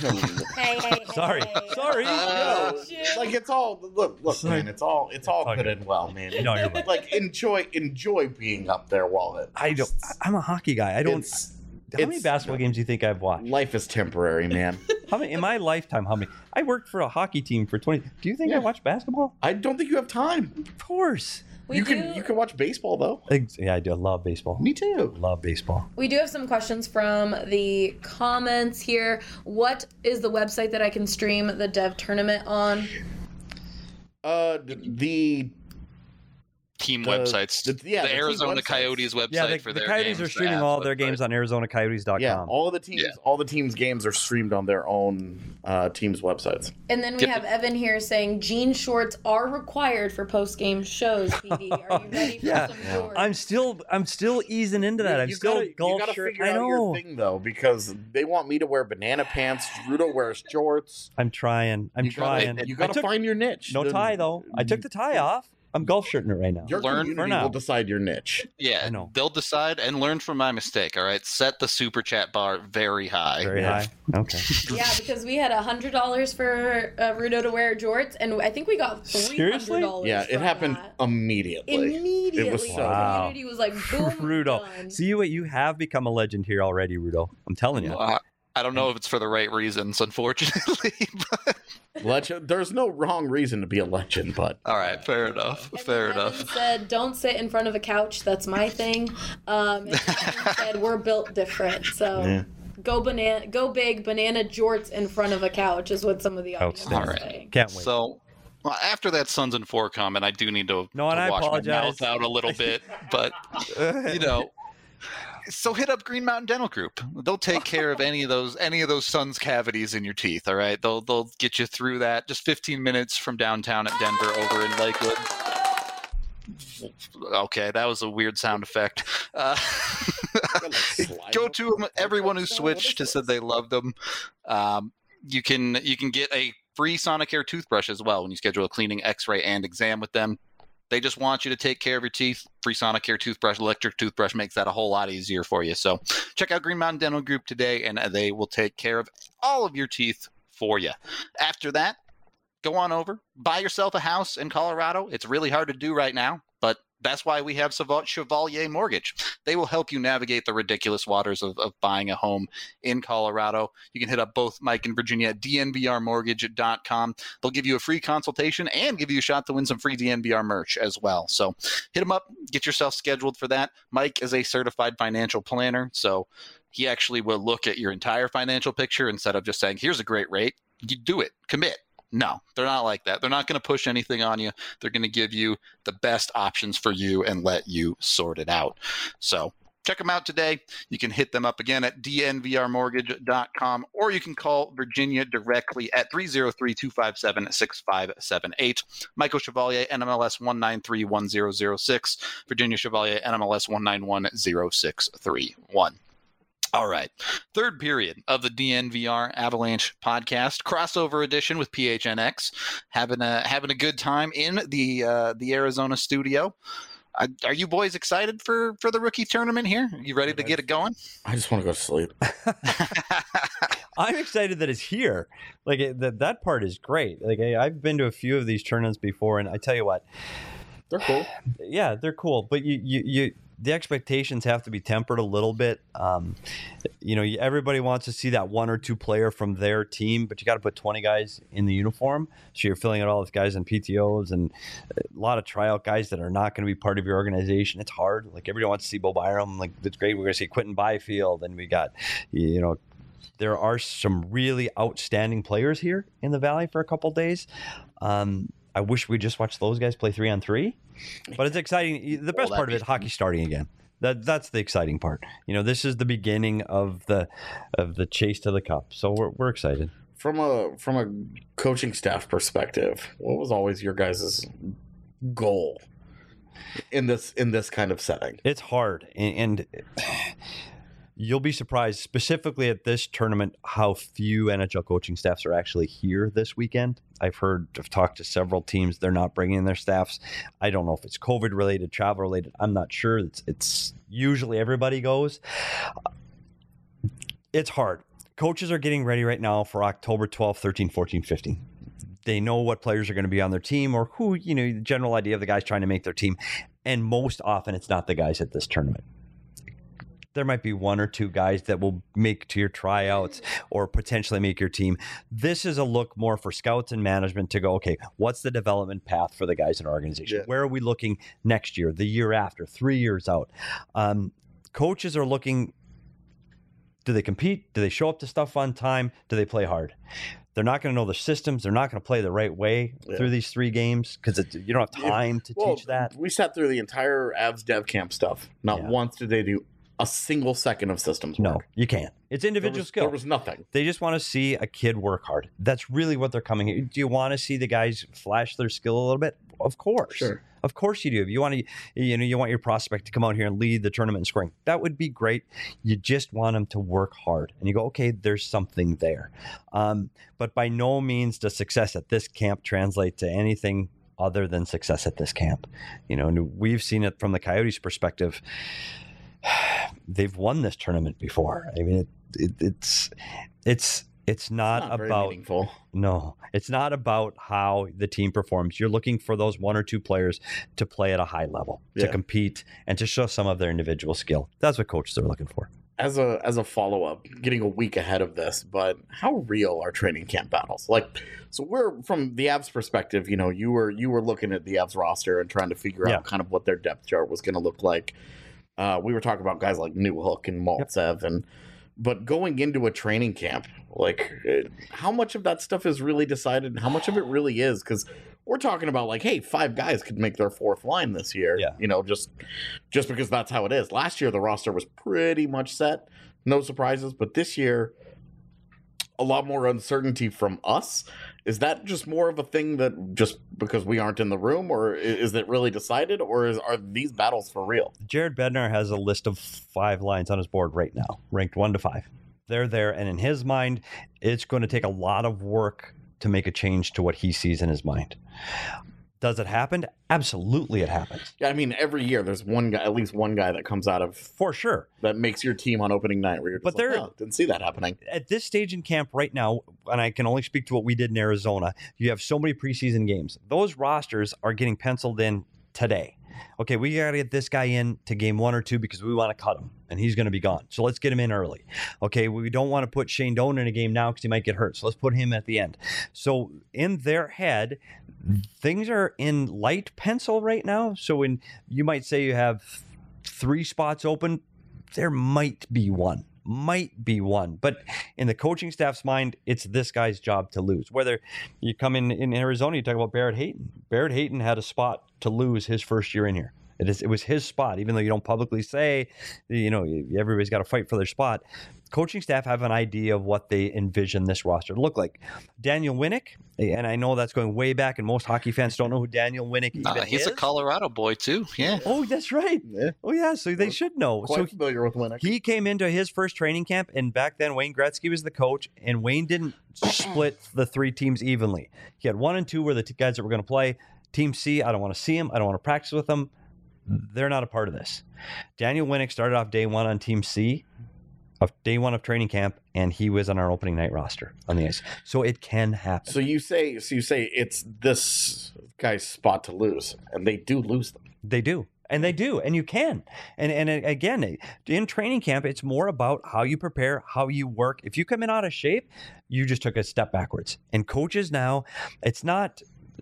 Hey. Sorry. Sorry. Like it's all look, Sorry. man. It's all Okay. good and well, man. No, you're right. Like enjoy being up there while it. I don't. I'm a hockey guy. I don't. It's- How many it's- basketball games do you think I've watched? Life is temporary, man. How many in my lifetime? How many? I worked for a hockey team for 20. Do you think I Yeah. watched basketball? I don't think you have time. Of course. We You do, can watch baseball though. Yeah, I do. I love baseball. Me too. Love baseball. we do have some questions from the comments here. What is the website that I can stream the Dev tournament on? The Team The- websites. the- yeah, the the team Arizona websites. Coyotes website Yeah, the, for the their Coyotes games. are the streaming Avs all their website. games on ArizonaCoyotes.com. yeah, all the teams' games are streamed on their own teams' websites. And then we Yep. have Evan here saying jean shorts are required for post game shows. PD, are you ready for Yeah. some shorts? I'm still easing into that. I'm you still gotta, golf you gotta shirt. figure I out know. your thing though, because they want me to wear banana pants. Rudo wears shorts. I'm trying. I'm You gotta- trying. You I got to took- find your niche. no tie though. I took the tie off. I'm golf shirting it right now. Your Learn community for now. will decide your niche. Yeah, I know. they'll decide and learn from my mistake. All right, set the super chat bar very high. Very Yeah. high. Okay. Yeah, because we had $100 for Rudo to wear jorts, and I think we got $300. Seriously? Yeah, it from happened that. immediately. Immediately. It was the so- Wow. community was like, boom, Rudo. done. See what you have become a legend here already, Rudo. I'm telling you. I don't know if it's for the right reasons, unfortunately. But, Legend. There's no wrong reason to be a legend, but all right, fair enough. And Fair Evan enough. said, "Don't sit in front of a couch. That's my thing." And Evan said, "We're built different." So Yeah. go big, banana jorts in front of a couch is what some of the audience Outstanding. are All right. saying. Can't wait. So, well, after that Suns and 4 comment, I do need to, No, and to I wash apologize. my mouth out a little bit. But, you know, so hit up Green Mountain Dental Group. They'll take care of any of those Suns cavities in your teeth. All right, they'll get you through that. Just 15 minutes from downtown at Denver, over in Lakewood. Okay, that was a weird sound effect. Go to them. Everyone who switched has said they loved them. You can get a free Sonicare toothbrush as well when you schedule a cleaning, X-ray, and exam with them. They just want you to take care of your teeth. Free Sonicare toothbrush, electric toothbrush makes that a whole lot easier for you. So check out Green Mountain Dental Group today, and they will take care of all of your teeth for you. After that, go on over, buy yourself a house in Colorado. It's really hard to do right now, but That's why we have Chevalier Mortgage. They will help you navigate the ridiculous waters of buying a home in Colorado. You can hit up both Mike and Virginia at dnvrmortgage.com. They'll give you a free consultation and give you a shot to win some free DNVR merch as well. So hit them up, get yourself scheduled for that. Mike is a certified financial planner, so he actually will look at your entire financial picture instead of just saying, here's a great rate. You do it, commit. No, they're not like that. They're not going to push anything on you. They're going to give you the best options for you and let you sort it out. So check them out today. You can hit them up again at dnvrmortgage.com, or you can call Virginia directly at 303-257-6578. Michael Chevalier, NMLS 1931006. Virginia Chevalier, NMLS 1910631. All right. Third period of the DNVR Avalanche podcast, crossover edition with PHNX. Having a good time in the Arizona studio. Are you boys excited for the rookie tournament here? You ready to get it going? I just want to go to sleep. I'm excited that it's here. Like that part is great. Like I've been to a few of these tournaments before, and I tell you what, they're cool. Yeah, they're cool. But you the expectations have to be tempered a little bit. Everybody wants to see that one or two player from their team, but you got to put 20 guys in the uniform. So you're filling out all these guys in PTOs and a lot of tryout guys that are not going to be part of your organization. It's hard. Like everybody wants to see Bo Byram. Like that's great. We're going to see Quentin Byfield, and we got, there are some really outstanding players here in the Valley for a couple of days. I wish we just watched those guys play 3-on-3, but it's exciting. The best part of it, hockey starting again. That's the exciting part. This is the beginning of the chase to the cup. So we're excited. From a coaching staff perspective, what was always your guys' goal in this kind of setting? It's hard, and you'll be surprised, specifically at this tournament, how few NHL coaching staffs are actually here this weekend. I've talked to several teams. They're not bringing in their staffs. I don't know if it's COVID related, travel related. I'm not sure. It's usually everybody goes. It's hard. Coaches are getting ready right now for October 12, 13, 14, 15. They know what players are going to be on their team, or who, the general idea of the guys trying to make their team. And most often it's not the guys at this tournament. There might be one or two guys that will make to your tryouts or potentially make your team. This is a look more for scouts and management to go, okay, what's the development path for the guys in our organization? Yeah. Where are we looking next year, the year after, 3 years out? Coaches are looking, do they compete? Do they show up to stuff on time? Do they play hard? They're not going to know the systems. They're not going to play the right way through these 3 games because you don't have time to teach that. We sat through the entire Avs Dev Camp stuff. Not once did they do a single second of systems work. No, you can't. It's individual skill. There was nothing. They just want to see a kid work hard. That's really what they're coming here. Do you want to see the guys flash their skill a little bit? Of course. Sure. Of course you do. If you want to, you want your prospect to come out here and lead the tournament in scoring. That would be great. You just want them to work hard. And you go, okay, there's something there. But by no means does success at this camp translate to anything other than success at this camp. And we've seen it from the Coyotes' perspective. They've won this tournament before. I mean, it's not about meaningful. No, it's not about how the team performs. You're looking for those one or two players to play at a high level, to compete, and to show some of their individual skill. That's what coaches are looking for. As a follow-up, getting a week ahead of this, but how real are training camp battles? So we're, from the Avs perspective, you were looking at the Avs roster and trying to figure out kind of what their depth chart was going to look like. We were talking about guys like Newhook and Maltsev, but going into a training camp, how much of that stuff is really decided and how much of it really is? Because we're talking about hey, 5 guys could make their 4th line this year. Yeah. Just because that's how it is. Last year, the roster was pretty much set. No surprises. But this year, a lot more uncertainty from us. Is that just more of a thing that just because we aren't in the room, or is it really decided, or are these battles for real? Jared Bednar has a list of 5 lines on his board right now, ranked 1 to 5. They're there, and in his mind, it's going to take a lot of work to make a change to what he sees in his mind. Does it happen? Absolutely it happens. Yeah, I mean, every year there's one guy, at least one guy that comes out of... For sure. That makes your team on opening night where you're just didn't see that happening. At this stage in camp right now, and I can only speak to what we did in Arizona, you have so many preseason games. Those rosters are getting penciled in today. Okay, we got to get this guy in to game 1 or 2 because we want to cut him and he's going to be gone. So let's get him in early. Okay, we don't want to put Shane Doan in a game now because he might get hurt. So let's put him at the end. So in their head, things are in light pencil right now. So when you might say you have 3 spots open, there might be one. But in the coaching staff's mind, it's this guy's job to lose. Whether you come in Arizona, you talk about Barrett Hayton. Barrett Hayton had a spot to lose his first year in here. It was his spot, even though you don't publicly say, everybody's got to fight for their spot. Coaching staff have an idea of what they envision this roster to look like. Daniel Winnick, and I know that's going way back, and most hockey fans don't know who Daniel Winnick even is. He's a Colorado boy, too. Yeah. Oh, that's right. Yeah. Oh, yeah, so they should know. Quite familiar with Winnick. He came into his first training camp, and back then Wayne Gretzky was the coach, and Wayne didn't split the 3 teams evenly. He had 1 and 2 were the guys that were going to play. Team C, I don't want to see him. I don't want to practice with them. They're not a part of this. Daniel Winnick started off day 1 on Team C, of day 1 of training camp, and he was on our opening night roster on the ice. So it can happen. So you say it's this guy's spot to lose, and they do lose them. They do. And they do, and you can. And again, in training camp, it's more about how you prepare, how you work. If you come in out of shape, you just took a step backwards. And coaches now, it's not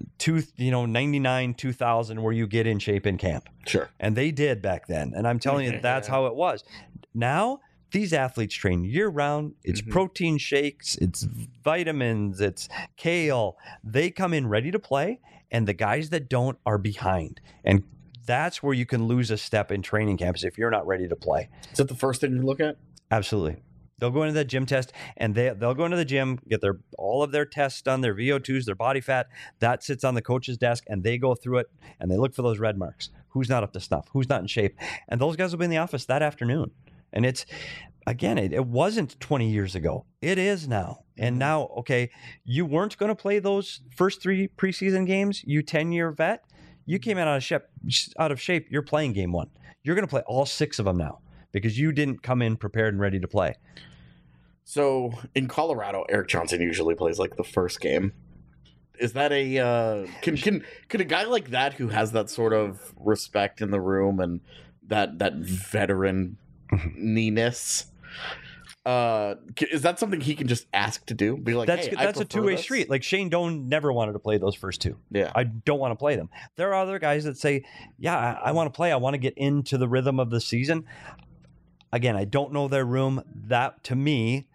99, 2000 where you get in shape in camp. Sure. And they did back then. And I'm telling you, that's how it was. Now, these athletes train year round. It's protein shakes, it's vitamins, it's kale. They come in ready to play, and the guys that don't are behind. And that's where you can lose a step in training camps if you're not ready to play. Is that the first thing you look at? Absolutely. They'll go into the gym test, and they'll go into the gym, get all of their tests done, their VO2s, their body fat. That sits on the coach's desk, and they go through it, and they look for those red marks. Who's not up to snuff? Who's not in shape? And those guys will be in the office that afternoon. And it's, again, it wasn't 20 years ago. It is now. And now, okay, you weren't going to play those first 3 preseason games, you 10-year vet. You came out of shape. You're playing game 1. You're going to play all 6 of them now because you didn't come in prepared and ready to play. So in Colorado, Erik Johnson usually plays like the first game. Is that could a guy like that who has that sort of respect in the room and that veteran ness, is that something he can just ask to do? Be like, that's a two-way street. Like Shane Doan never wanted to play those first 2. Yeah, I don't want to play them. There are other guys that say, yeah, I want to play. I want to get into the rhythm of the season. Again, I don't know their room. That, to me,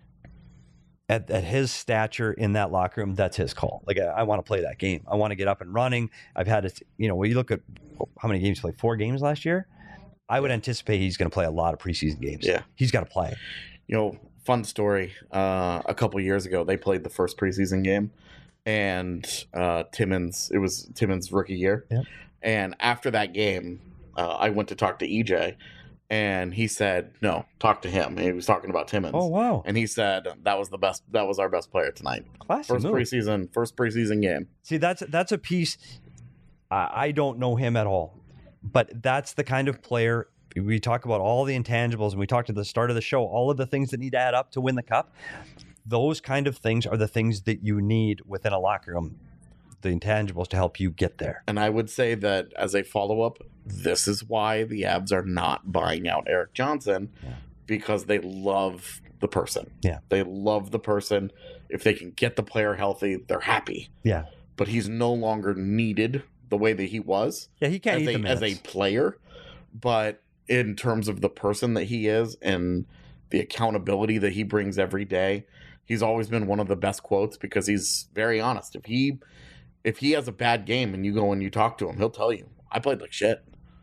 at his stature in that locker room, that's his call. Like, I want to play that game. I want to get up and running. I've had it, when you look at how many games he played, 4 games last year, I would anticipate he's going to play a lot of preseason games. Yeah. He's got to play. Fun story. A couple years ago, they played the first preseason game, and it was Timmins' rookie year. Yep. And after that game, I went to talk to EJ, and he said, no, talk to him. And he was talking about Timmins. Oh, wow. And he said that was our best player tonight. Classic First move. preseason game. See, that's a piece. I don't know him at all, but that's the kind of player. We talk about all the intangibles, and we talked at the start of the show, all of the things that need to add up to win the cup. Those kind of things are the things that you need within a locker room, the intangibles to help you get there. And I would say that as a follow-up, this is why the Avs are not buying out Erik Johnson, because they love the person. Yeah. They love the person. If they can get the player healthy, they're happy. Yeah. But he's no longer needed the way that he was. Yeah, he can't eat the minutes. As a player. But in terms of the person that he is and the accountability that he brings every day, he's always been one of the best quotes because he's very honest. If he has a bad game and you go and you talk to him, he'll tell you, I played like shit.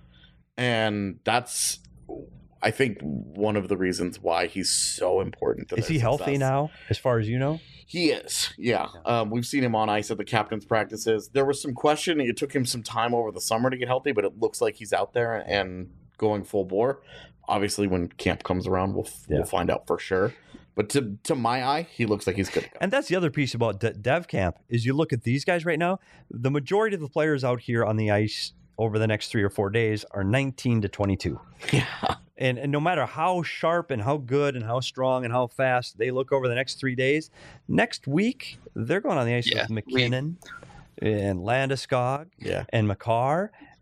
And that's, I think, one of the reasons why he's so important to Is he healthy now, as far as you know? He is, yeah. We've seen him on ice at the captain's practices. There was some question. It took him some time over the summer to get healthy, but it looks like he's out there and going full bore. Obviously, when camp comes around, we'll find out for sure. But to my eye, he looks like he's good to go. And that's the other piece about Dev Camp is you look at these guys right now, the majority of the players out here on the ice over the next 3 or 4 days are 19 to 22. Yeah. And no matter how sharp and how good and how strong and how fast they look over the next 3 days, next week, they're going on the ice with McKinnon and Landeskog and Makar.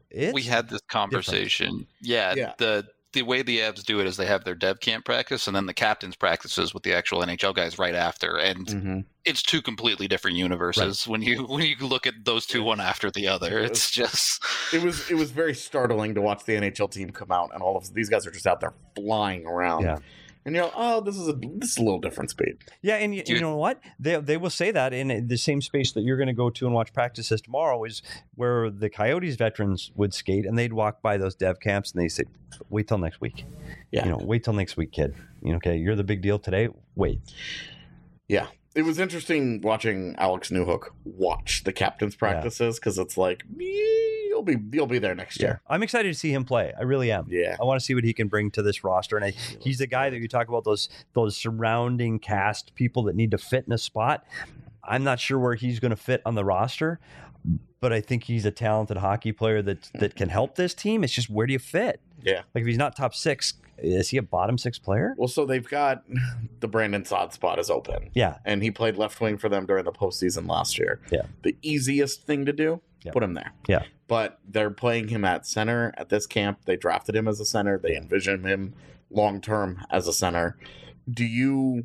we had this conversation. Yeah. The way the Avs do it is they have their dev camp practice and then the captain's practices with the actual NHL guys right after, and it's two completely different universes when you look at those two one after the other. It's just it was very startling to watch the NHL team come out and all of these guys are just out there flying around. Yeah. And you're like, oh, this is a little different speed. Yeah, and you know what? They will say that in the same space that you're going to go to and watch practices tomorrow is where the Coyotes veterans would skate, and they'd walk by those dev camps, and they say, wait till next week. Yeah. Wait till next week, kid. Okay, you're the big deal today. Wait. Yeah. It was interesting watching Alex Newhook watch the captain's practices because it's like, you'll be there next year. I'm excited to see him play. I really am. Yeah. I want to see what he can bring to this roster. And he's the guy that you talk about, those surrounding cast people that need to fit in a spot. I'm not sure where he's going to fit on the roster, but I think he's a talented hockey player that can help this team. It's just, where do you fit? Yeah. Like if he's not top 6, is he a bottom 6 player? Well, so they've got the Brandon Saad spot is open. Yeah. And he played left wing for them during the postseason last year. Yeah. The easiest thing to do, put him there. Yeah. But they're playing him at center at this camp. They drafted him as a center. They envision him long term as a center. Do you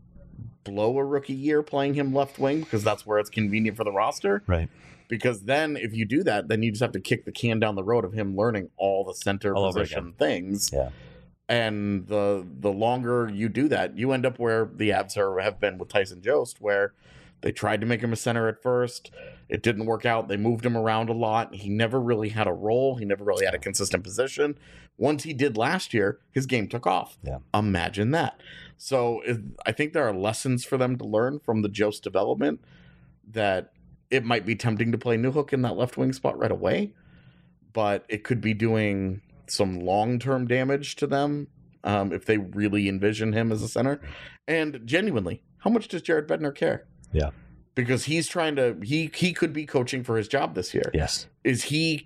blow a rookie year playing him left wing because that's where it's convenient for the roster? Right. Because then if you do that, then you just have to kick the can down the road of him learning all the center position things. Yeah. And the longer you do that, you end up where the Avs have been with Tyson Jost, where they tried to make him a center at first. It didn't work out. They moved him around a lot. He never really had a role. He never really had a consistent position. Once he did last year, his game took off. Yeah. Imagine that. So I think there are lessons for them to learn from the Jost development that it might be tempting to play Newhook in that left wing spot right away, but it could be doing some long-term damage to them if they really envision him as a center. And genuinely, how much does Jared Bednar care? Yeah. Because he's trying to, he could be coaching for his job this year. Yes. Is he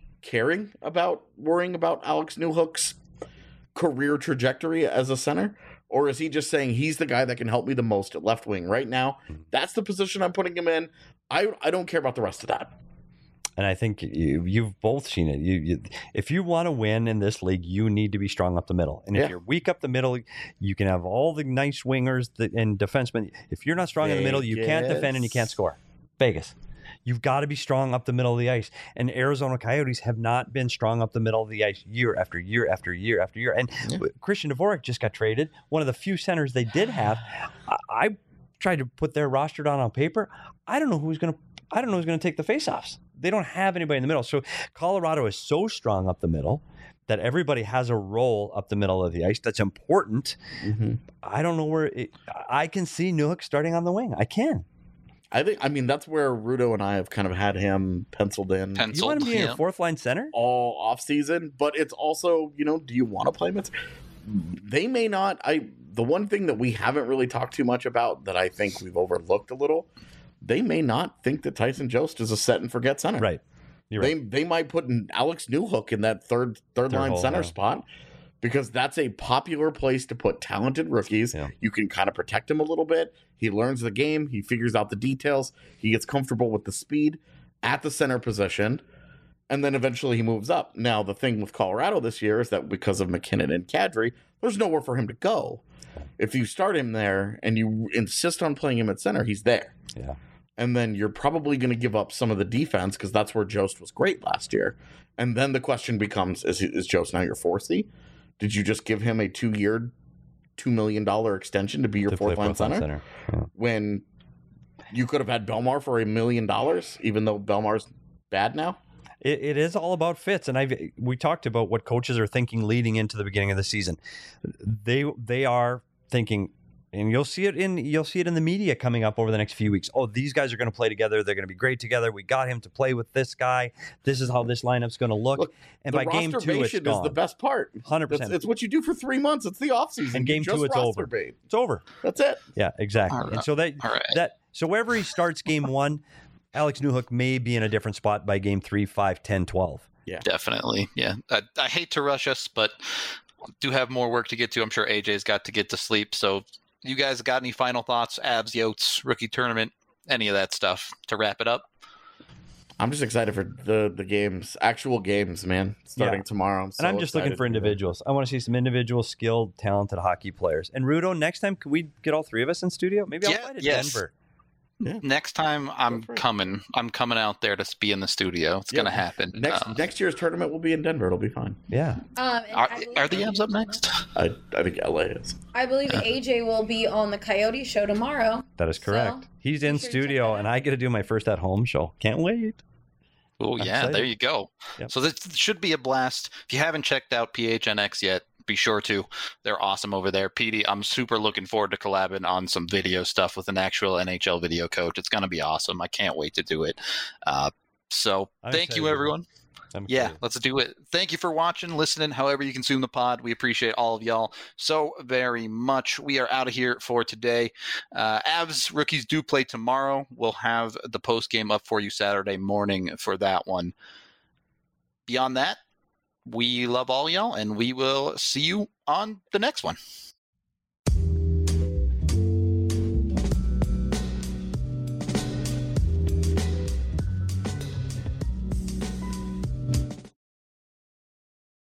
worrying about Alex Newhook's career trajectory as a center? Or is he just saying he's the guy that can help me the most at left wing right now? That's the position I'm putting him in. I don't care about the rest of that. And I think you've both seen it. If you want to win in this league, you need to be strong up the middle. And if you're weak up the middle, you can have all the nice wingers and defensemen. If you're not strong in the middle, you can't defend and you can't score. Vegas. You've got to be strong up the middle of the ice. And Arizona Coyotes have not been strong up the middle of the ice year after year after year after year. And Christian Dvorak just got traded. One of the few centers they did have. I tried to put their roster down on paper. I don't know who's going to take the faceoffs. They don't have anybody in the middle. So Colorado is so strong up the middle that everybody has a role up the middle of the ice that's important. Mm-hmm. I don't know where I can see Newhook starting on the wing. I can. I mean, that's where Rudo and I have kind of had him penciled in. You want to be in your fourth line center? All off season, but it's also, do you want to play him? They may not. The one thing that we haven't really talked too much about that I think we've overlooked a little, they may not think that Tyson Jost is a set and forget center. Right. You're right. They might put Alex Newhook in that third line center spot because that's a popular place to put talented rookies. Yeah. You can kind of protect him a little bit. He learns the game. He figures out the details. He gets comfortable with the speed at the center position. And then eventually he moves up. Now, the thing with Colorado this year is that because of McKinnon and Kadri, there's nowhere for him to go. If you start him there and you insist on playing him at center, he's there. Yeah. And then you're probably going to give up some of the defense because that's where Jost was great last year. And then the question becomes, is Jost now your 4C? Did you just give him a 2-year, $2 million extension to be your fourth-line center? Yeah. When you could have had Belmar for $1 million, even though Belmar's bad now? It is all about fits, and we talked about what coaches are thinking leading into the beginning of the season. They are thinking, and you'll see it in the media coming up over the next few weeks. Oh, these guys are going to play together. They're going to be great together. We got him to play with this guy. This is how this lineup's going to look. And by game 2, it's gone. Is the best part. 100%. It's what you do for 3 months. It's the offseason. And game 2, it's over. It's over. That's it. Yeah, exactly. Right. And so so wherever he starts game 1. Alex Newhook may be in a different spot by game 3, 5, 10, 12. Yeah, definitely. Yeah. I hate to rush us, but do have more work to get to. I'm sure AJ's got to get to sleep. So you guys got any final thoughts? Avs, Yotes, rookie tournament, any of that stuff to wrap it up? I'm just excited for the games, actual games, man. Starting tomorrow. And I'm just looking for individuals. I want to see some individual, skilled, talented hockey players. And Rudo, next time, can we get all three of us in studio? Maybe I'll fly to Denver. Yeah. Next time I'm coming out there to be in the studio. It's gonna happen. Next year's tournament will be in Denver. It'll be fine. Yeah. Are the Avs up next? I think LA is. I believe AJ will be on the Coyote show tomorrow. That is correct. So, he's in studio, and I get to do my first at home show. Can't wait. Oh yeah, excited. there you go. Yep. So this should be a blast. If you haven't checked out PHNX yet, be sure to. They're awesome over there. Petey, I'm super looking forward to collabing on some video stuff with an actual NHL video coach. It's going to be awesome. I can't wait to do it. So thank you, everyone. Yeah, let's do it. Thank you for watching, listening, however you consume the pod. We appreciate all of y'all so very much. We are out of here for today. Avs rookies do play tomorrow. We'll have the post game up for you Saturday morning for that one. Beyond that, we love all y'all, and we will see you on the next one.